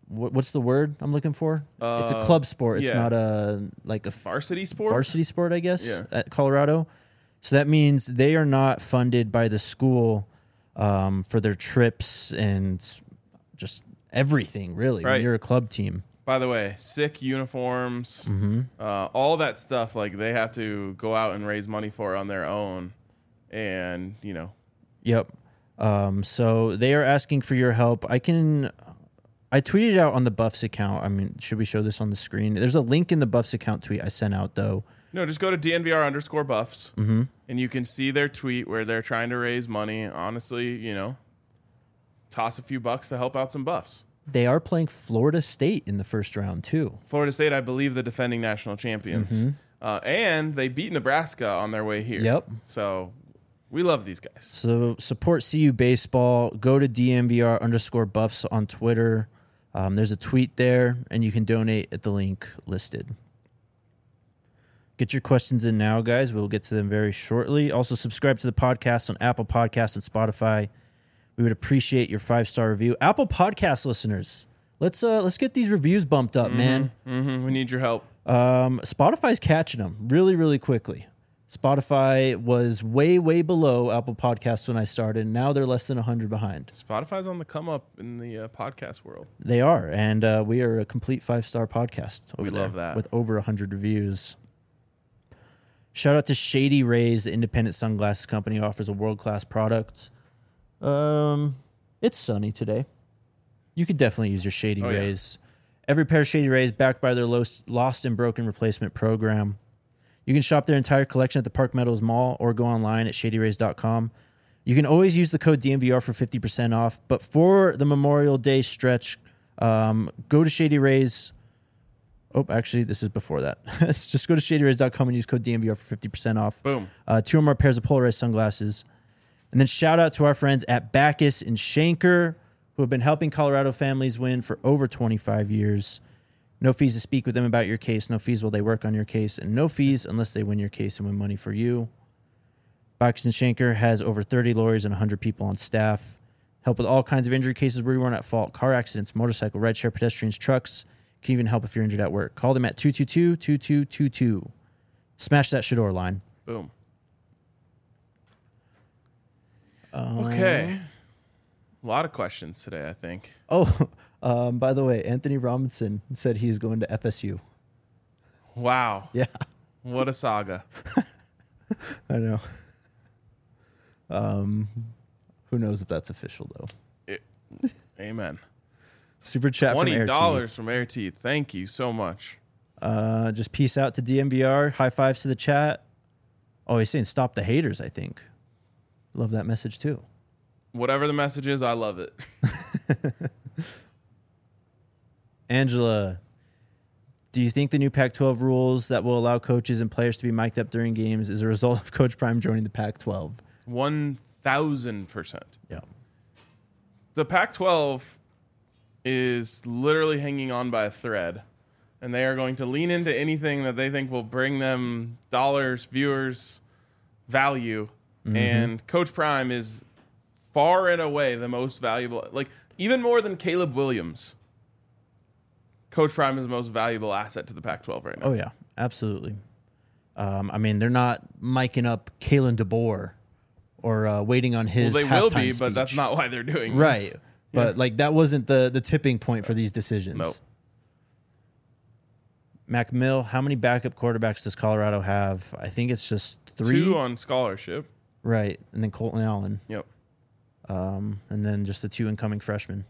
what, what's the word I'm looking for? Uh, it's a club sport. It's yeah. not a like a Varsity sport? varsity sport, I guess, Yeah. at Colorado. So that means they are not funded by the school um, for their trips and just everything, really, Right. when you're a club team. By the way, sick uniforms, Mm-hmm. uh, all that stuff, like they have to go out and raise money for on their own. And, you know, Yep. Um, so they are asking for your help. I can... I tweeted out on the Buffs account. I mean, should we show this on the screen? There's a link in the Buffs account tweet I sent out, though. no, just go to D N V R underscore buffs Mm-hmm. and you can see their tweet where they're trying to raise money. Honestly, you know, toss a few bucks to help out some Buffs. They are playing Florida State in the first round, too. Florida State, I believe, the defending national champions. Mm-hmm. Uh, and they beat Nebraska on their way here. Yep. So we love these guys. So support C U Baseball. Go to D M V R underscore Buffs on Twitter. Um, there's a tweet there, and you can donate at the link listed. Get your questions in now, guys. We'll get to them very shortly. Also, subscribe to the podcast on Apple Podcasts and Spotify. We would appreciate your five-star review. Apple Podcast listeners, let's uh, let's get these reviews bumped up, man. Mm-hmm. We need your help. Um, Spotify's catching them really, really quickly. Spotify was way, way below Apple Podcasts when I started. Now they're less than one hundred behind. Spotify's on the come up in the uh, podcast world. They are, and uh, we are a complete five-star podcast over We there love that. with over one hundred reviews. Shout out to Shady Rays, the independent sunglasses company, offers a world-class product. Um, It's sunny today. You could definitely use your Shady Oh, yeah. Rays. Every pair of Shady Rays backed by their Lost Lost and Broken replacement program. You can shop their entire collection at the Park Meadows Mall or go online at shady rays dot com. You can always use the code D M V R for fifty percent off, but for the Memorial Day stretch, um, go to Shady Rays. Oh, actually, this is before that. Just go to shady rays dot com and use code D M V R for fifty percent off. Boom. Uh, two or more pairs of polarized sunglasses. And then shout out to our friends at Backus and Shanker, who have been helping Colorado families win for over twenty-five years. No fees to speak with them about your case. No fees while they work on your case. And no fees unless they win your case and win money for you. Backus and Shanker has over thirty lawyers and one hundred people on staff. Help with all kinds of injury cases where you weren't at fault. Car accidents, motorcycle, rideshare, pedestrians, trucks. Can even help if you're injured at work. Call them at two two two, two two two two. Smash that Shador line. Boom. Um, Okay. A lot of questions today, I think. Oh, um, by the way, Anthony Robinson said he's going to F S U. Wow. Yeah, What a saga. I know. Um, who knows if that's official though? It, amen. Super chat from twenty Air T. dollars from Air T. Thank you so much. Uh, just peace out to D M V R. High fives to the chat. Oh, he's saying stop the haters. I think. Love that message too. Whatever the message is, I love it. Angela, do you think the new Pac twelve rules that will allow coaches and players to be mic'd up during games is a result of Coach Prime joining the Pac twelve? one thousand percent. Yeah. The Pac twelve is literally hanging on by a thread, and they are going to lean into anything that they think will bring them dollars, viewers, value. Mm-hmm. And Coach Prime is far and away the most valuable, like even more than Caleb Williams. Coach Prime is the most valuable asset to the Pac twelve right now. Oh yeah, absolutely. Um, I mean, they're not miking up Kalen DeBoer or uh, waiting on his. Well, they will halftime be, but that's speech. not why they're doing right. this. But like that wasn't the the tipping point for these decisions. Nope. Mac Mill, how many backup quarterbacks does Colorado have? I think it's just three. Two on scholarship. Right, and then Colton Allen, Yep. um, and then just the two incoming freshmen.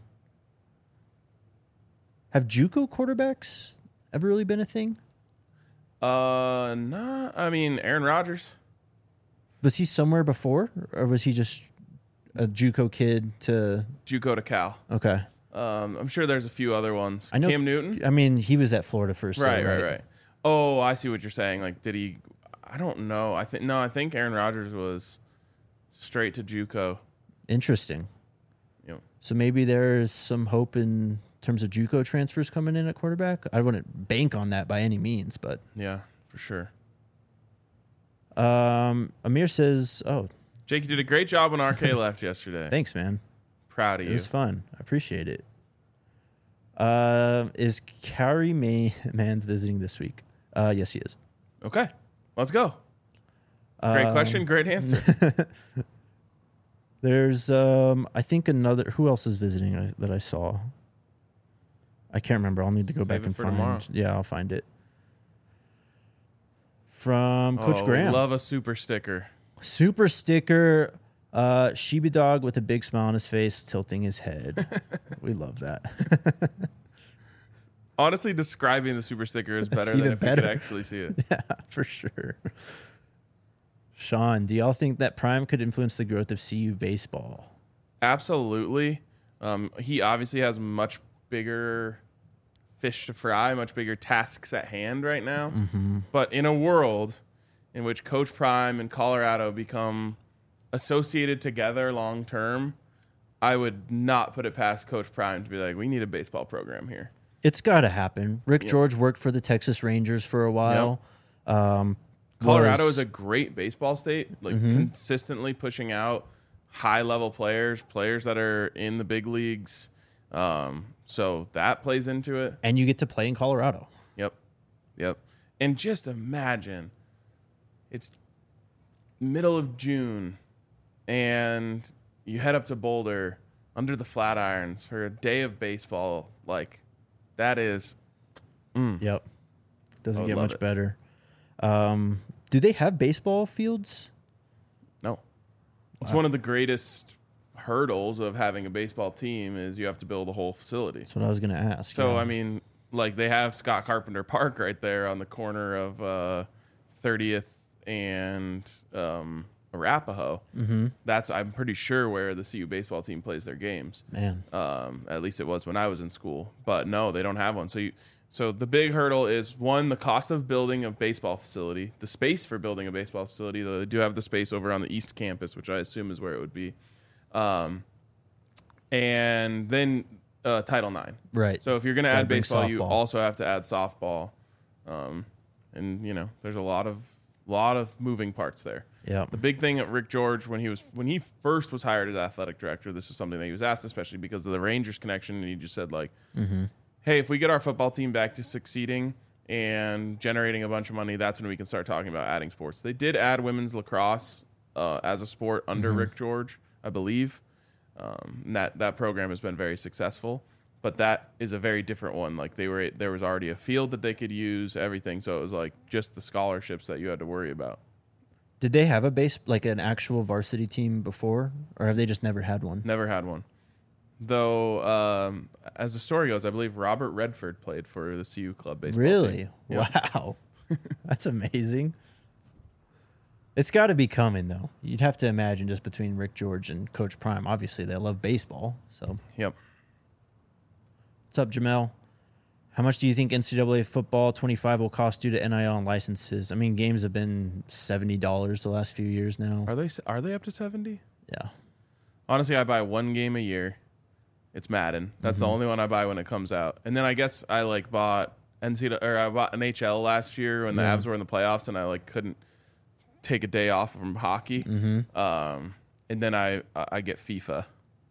Have JUCO quarterbacks ever really been a thing? Uh, nah. I mean, Aaron Rodgers. Was he somewhere before, or was he just a JUCO kid to? JUCO to Cal. Okay, Um, I'm sure there's a few other ones. I know- Cam Newton. I mean he was at Florida first. though, Right, right, right. Oh, I see what you're saying. Like, did he? I don't know. I think no. I think Aaron Rodgers was straight to JUCO. Interesting. Yep. So maybe there's some hope in terms of JUCO transfers coming in at quarterback. I wouldn't bank on that by any means, but Yeah, for sure. um, Amir says, "Oh, Jake, you did a great job when R K left yesterday. thanks, man. Proud of It you. was fun. I appreciate it." Uh, is Carrie May Mans visiting this week? Uh, yes, he is. Okay, let's go. Great Um, question, great answer. There's, um, I think another. Who else is visiting I, that I saw? I can't remember. I'll need to go Save back it and for find. tomorrow. Yeah, I'll find it. From Coach Oh, Graham, love a super sticker. super sticker. Uh, Shiba dog with a big smile on his face, tilting his head. We love that. Honestly, describing the super sticker is better than even if you better. could actually see it. Yeah, for sure. Sean, do y'all think that Prime could influence the growth of C U baseball? Absolutely. Um, he obviously has much bigger fish to fry, much bigger tasks at hand right now. Mm-hmm. But in a world in which Coach Prime and Colorado become associated together long term, I would not put it past Coach Prime to be like, we need a baseball program here. It's got to happen. Rick Yep. George worked for the Texas Rangers for a while. Um, Colorado was- is a great baseball state, like Mhm. consistently pushing out high level players, players that are in the big leagues. Um, so that plays into it. and you get to play in Colorado. Yep. Yep. And just imagine it's middle of June and you head up to Boulder under the Flatirons for a day of baseball. Like, that is, mm, Yep. Doesn't I would get love much it. better. Um, do they have baseball fields? no. It's Wow. one of the greatest hurdles of having a baseball team is you have to build a whole facility. That's what I was going to ask. So, yeah. I mean, like they have Scott Carpenter Park right there on the corner of uh, thirtieth and um, Arapahoe. Mm-hmm. That's, I'm pretty sure, where the C U baseball team plays their games. Man. Um, at least it was when I was in school. But no, they don't have one. So you, so the big hurdle is, one, the cost of building a baseball facility, the space for building a baseball facility. Though they do have the space over on the East Campus, which I assume is where it would be. Um, and then uh, Title nine. Right. So if you're going to Gotta add bring baseball, you softball. also have to add softball. Um, and you know, there's a lot of lot of moving parts there. Yeah. The big thing at Rick George when he was when he first was hired as athletic director, this was something that he was asked, especially because of the Rangers connection, and he just said like, Mm-hmm. "Hey, if we get our football team back to succeeding and generating a bunch of money, that's when we can start talking about adding sports." They did add women's lacrosse uh, as a sport under Mhm. Rick George, I believe. Um, and that that program has been very successful, but that is a very different one. Like they were, there was already a field that they could use, everything. So it was like just the scholarships that you had to worry about. Did they have a base, like an actual varsity team before, or have they just never had one? Never had one. Though, um, as the story goes, I believe Robert Redford played for the C U club baseball Really? team. Yeah. Wow. That's amazing. It's got to be coming, though. You'd have to imagine just between Rick George and Coach Prime. Obviously, they love baseball. So, Yep. what's up, Jamel? How much do you think N C double A football twenty-five will cost due to N I L and licenses? I mean, games have been seventy dollars the last few years now. Are they are they up to seventy? Yeah. Honestly, I buy one game a year. It's Madden. That's the Mhm. only one I buy when it comes out. And then I guess I like bought N C double A or I bought N H L last year when the Yeah. Avs were in the playoffs, and I like couldn't take a day off from hockey. Mm-hmm. Um, and then I I get FIFA,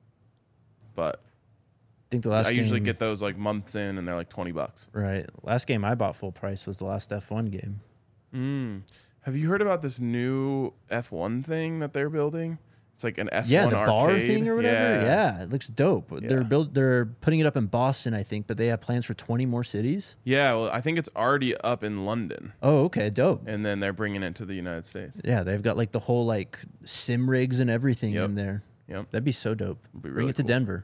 but I think the last I game, usually get those like months in, and they're like twenty bucks. right. Last game I bought full price was the last F one game. Mm. Have you heard about this new F one thing that they're building? It's like an F one Yeah, the bar arcade. thing or whatever. Yeah, it looks dope. They're Yeah. build they're putting it up in Boston, I think, but they have plans for twenty more cities. Yeah, well, I think it's already up in London, Oh, okay, dope. and then they're bringing it to the United States. Yeah, they've got like the whole like sim rigs and everything Yep. in there. Yep. That'd be so dope. It'd be Bring really it to cool. Denver.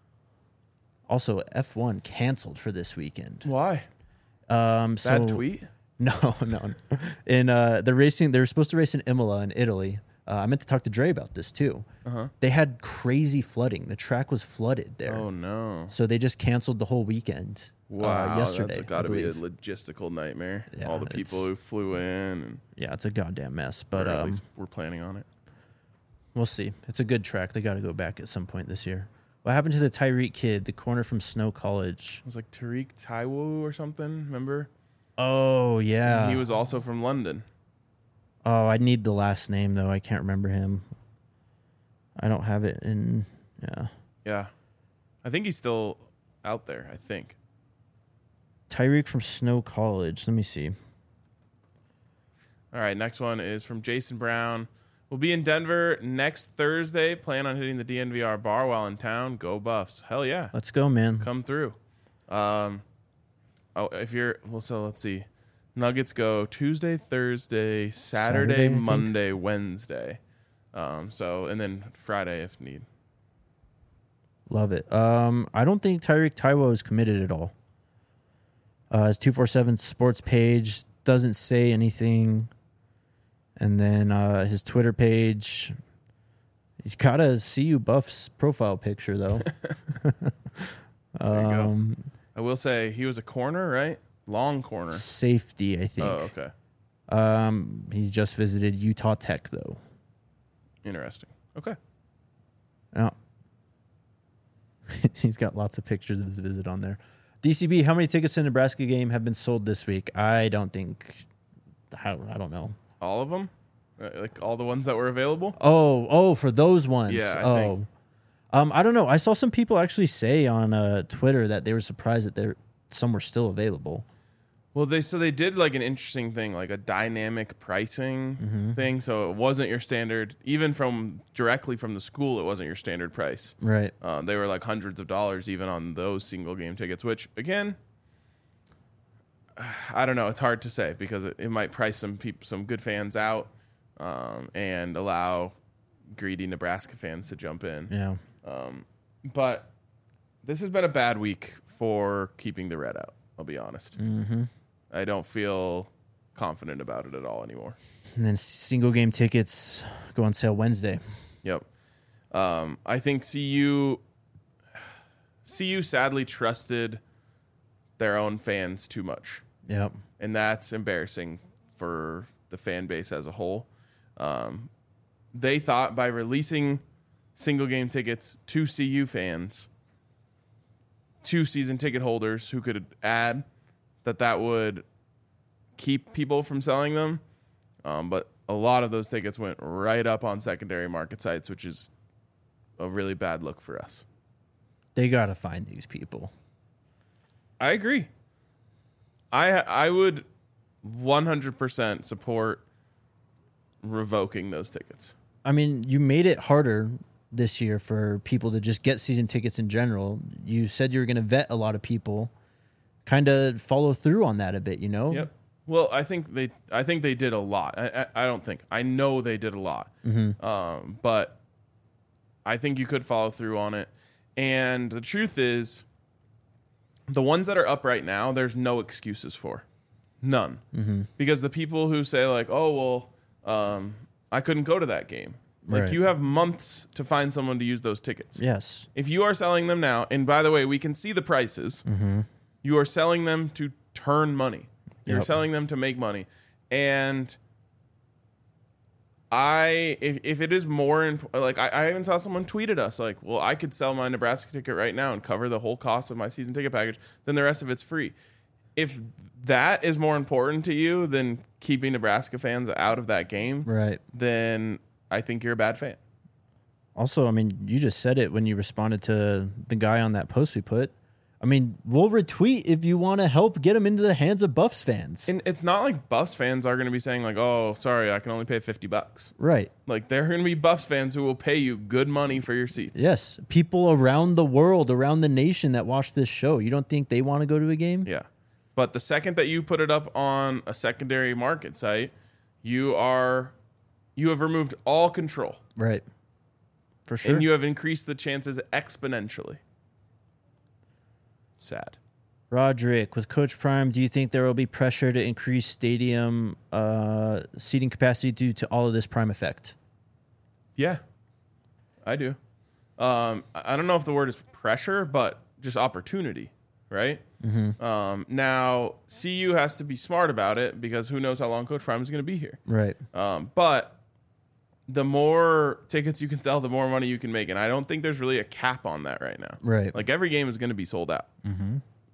Also, F one canceled for this weekend. Why? Um, so, Bad tweet? No, no. In uh, the racing, they were supposed to race in Imola in Italy. Uh, I meant to talk to Dre about this too. Uh-huh. They had crazy flooding. The track was flooded there. Oh, no. So they just canceled the whole weekend. Wow, uh, yesterday. that's got to I be a believe. logistical nightmare. Yeah, All the people it's- who flew in, and Yeah, it's a goddamn mess. but But at um, least we're planning on it. we'll see. It's a good track. They got to go back at some point this year. What happened to the Tyreek kid, the corner from Snow College? It was like Tariq Taiwo or something, remember? Oh yeah, He was also from London. Oh, I need the last name though. I can't remember him. I don't have it in. Yeah. Yeah. I think he's still out there, I think. Tyreek from Snow College. Let me see. All right, next one is from Jason Brown. We'll be in Denver next Thursday. Plan on hitting the D N V R bar while in town. Go Buffs. Hell yeah. Let's go, man. Come through. Um, oh, if you're, well, so let's see. Nuggets go Tuesday, Thursday, Saturday, Saturday, I think. Monday, Wednesday. Um, so, and then Friday if need. Love it. Um, I don't think Tyreek Taiwo is committed at all. Uh, his two forty-seven Sports page doesn't say anything. And then uh, his Twitter page, he's got a C U Buffs profile picture, though. There you um, go. I will say he was a corner, right? Long corner. Safety, I think. Oh, okay. Um, he just visited Utah Tech, though. Interesting. Okay. Oh. He's got lots of pictures of his visit on there. D C B, how many tickets to the Nebraska game have been sold this week? I don't think. How, I don't know. All of them? Uh, like all the ones that were available? Oh, oh, for those ones. Yeah, I oh. think. Um, I don't know. I saw some people actually say on uh, Twitter that they were surprised that there some were still available. Well, they so they did like an interesting thing, like a dynamic pricing Mm-hmm. thing. So it wasn't your standard, even from directly from the school, it wasn't your standard price. Right. Uh, they were like hundreds of dollars even on those single game tickets, which again, I don't know. It's hard to say because it, it might price some people, some good fans out, um, and allow greedy Nebraska fans to jump in. Yeah. Um, but this has been a bad week for keeping the red out. I'll be honest. Mm-hmm. I don't feel confident about it at all anymore. And then single game tickets go on sale Wednesday. Yep. Um, I think C U, C U sadly trusted their own fans too much. Yep. And that's embarrassing for the fan base as a whole. Um, they thought by releasing single game tickets to C U fans, to season ticket holders who could add, that that would keep people from selling them. Um, but a lot of those tickets went right up on secondary market sites, which is a really bad look for us. They got to find these people. I agree. I I would one hundred percent support revoking those tickets. I mean, you made it harder this year for people to just get season tickets in general. You said you were going to vet a lot of people. Kind of follow through on that a bit, you know? Yep. Well, I think they I think they did a lot. I I, I don't think. I know they did a lot. Mm-hmm. Um, but I think you could follow through on it. And the truth is, the ones that are up right now, there's no excuses for. None. Mm-hmm. Because the people who say, like, oh, well, um, I couldn't go to that game. Like, Right. you have months to find someone to use those tickets. Yes. If you are selling them now, and by the way, we can see the prices, Mm-hmm. you are selling them to turn money. You're Yep. selling them to make money. And I, if, if it is more, imp- like, I, I even saw someone tweeted us, like, well, I could sell my Nebraska ticket right now and cover the whole cost of my season ticket package, then the rest of it's free. If that is more important to you than keeping Nebraska fans out of that game, Right. then I think you're a bad fan. Also, I mean, you just said it when you responded to the guy on that post we put. I mean, we'll retweet if you want to help get them into the hands of Buffs fans. And it's not like Buffs fans are going to be saying, like, oh, sorry, I can only pay fifty bucks. Right. Like, there are going to be Buffs fans who will pay you good money for your seats. Yes. People around the world, around the nation that watch this show. You don't think they want to go to a game? Yeah. But the second that you put it up on a secondary market site, you are, you have removed all control. Right. For sure. And you have increased the chances exponentially. Sad. Roderick, with Coach Prime, do you think there will be pressure to increase stadium uh, seating capacity due to all of this Prime effect? Yeah, I do. Um, I I don't know if the word is pressure, but just opportunity, right? Mm-hmm. Um, now, C U has to be smart about it because who knows how long Coach Prime is going to be here. Right. Um, but the more tickets you can sell, the more money you can make. And I don't think there's really a cap on that right now. Right. Like every game is going to be sold out. Mm-hmm.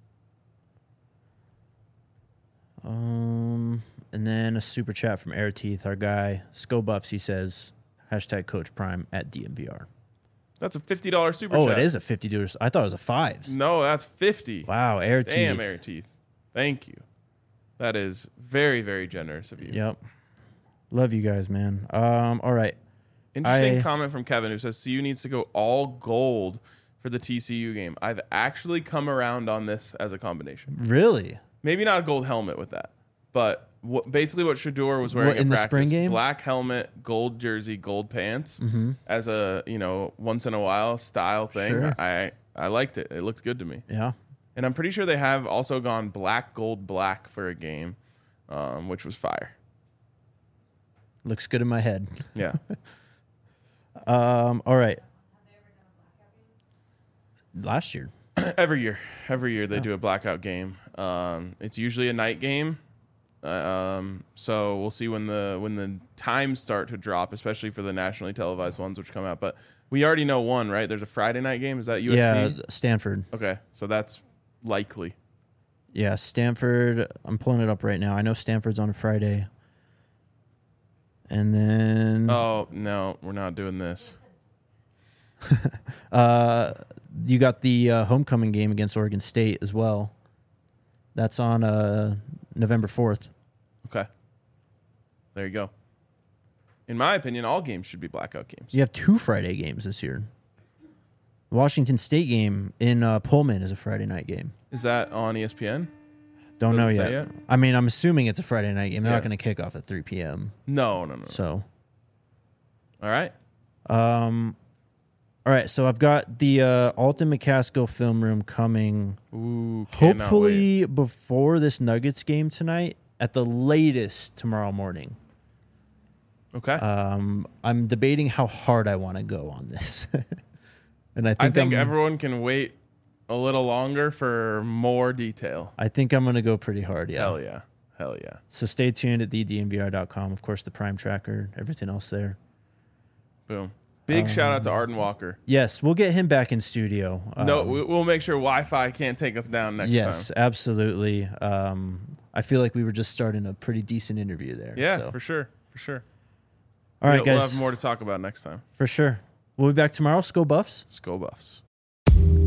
Um, and then a super chat from Air Teeth, our guy, Sco Buffs. He says, hashtag Coach Prime at D M V R. That's a fifty dollars super Oh, chat. it is a fifty dollars. I thought it was a fives. No, that's fifty. Wow, air teeth. Damn, Air Teeth. Thank you. That is very, very generous of you. Yep. Love you guys, man. Um, all right. Interesting I- comment from Kevin who says C U needs to go all gold for the T C U game. I've actually come around on this as a combination. Really? Maybe not a gold helmet with that, but what, basically what Shador was wearing What, in in the practice, spring game? black helmet, gold jersey, gold pants, Mm-hmm. as a you know once in a while style thing. Sure. I I liked it. It looked good to me, Yeah. and I'm pretty sure they have also gone black, gold, black for a game, um, which was fire. Looks good in my head. Yeah. Um, all right. Last year. every year, every year they do a blackout game. Um, it's usually a night game. Uh, um, so we'll see when the when the times start to drop, especially for the nationally televised ones which come out. But we already know one, right? There's a Friday night game. Is that U S C? Yeah, Stanford. Okay, so that's likely. Yeah, Stanford. I'm pulling it up right now. I know Stanford's on a Friday. And then Oh no, we're not doing this. uh, you got the uh, homecoming game against Oregon State as well. That's on uh, November fourth. Okay, there you go. In my opinion, all games should be blackout games. You have two Friday games this year. The Washington State game in uh, Pullman is a Friday night game. Is that on E S P N? Don't know Doesn't yet. say yet? I mean, I'm assuming it's a Friday night game. They're Yeah. not going to kick off at three p.m. No, no, no. no. So, All right. um, all right. So I've got the uh, Alton McCaskill film room coming. Ooh, cannot wait. Hopefully before this Nuggets game tonight, at the latest tomorrow morning. Okay. Um, I'm debating how hard I want to go on this, and I think I think I'm, everyone can wait a little longer for more detail. I think I'm going to go pretty hard. Yeah. Hell yeah. Hell yeah. So stay tuned at the d n v r dot com. Of course, the Prime Tracker, everything else there. Boom. Big shout out to Um, Arden Walker. Yes, we'll get him back in studio. no, Um, we- we'll make sure Wi-Fi can't take us down next yes, time. absolutely. Um, I feel like we were just starting a pretty decent interview there. Yeah, so. for sure. For sure. All right, we'll, guys. We'll have more to talk about next time. For sure. We'll be back tomorrow. Go Buffs. Let's go Buffs.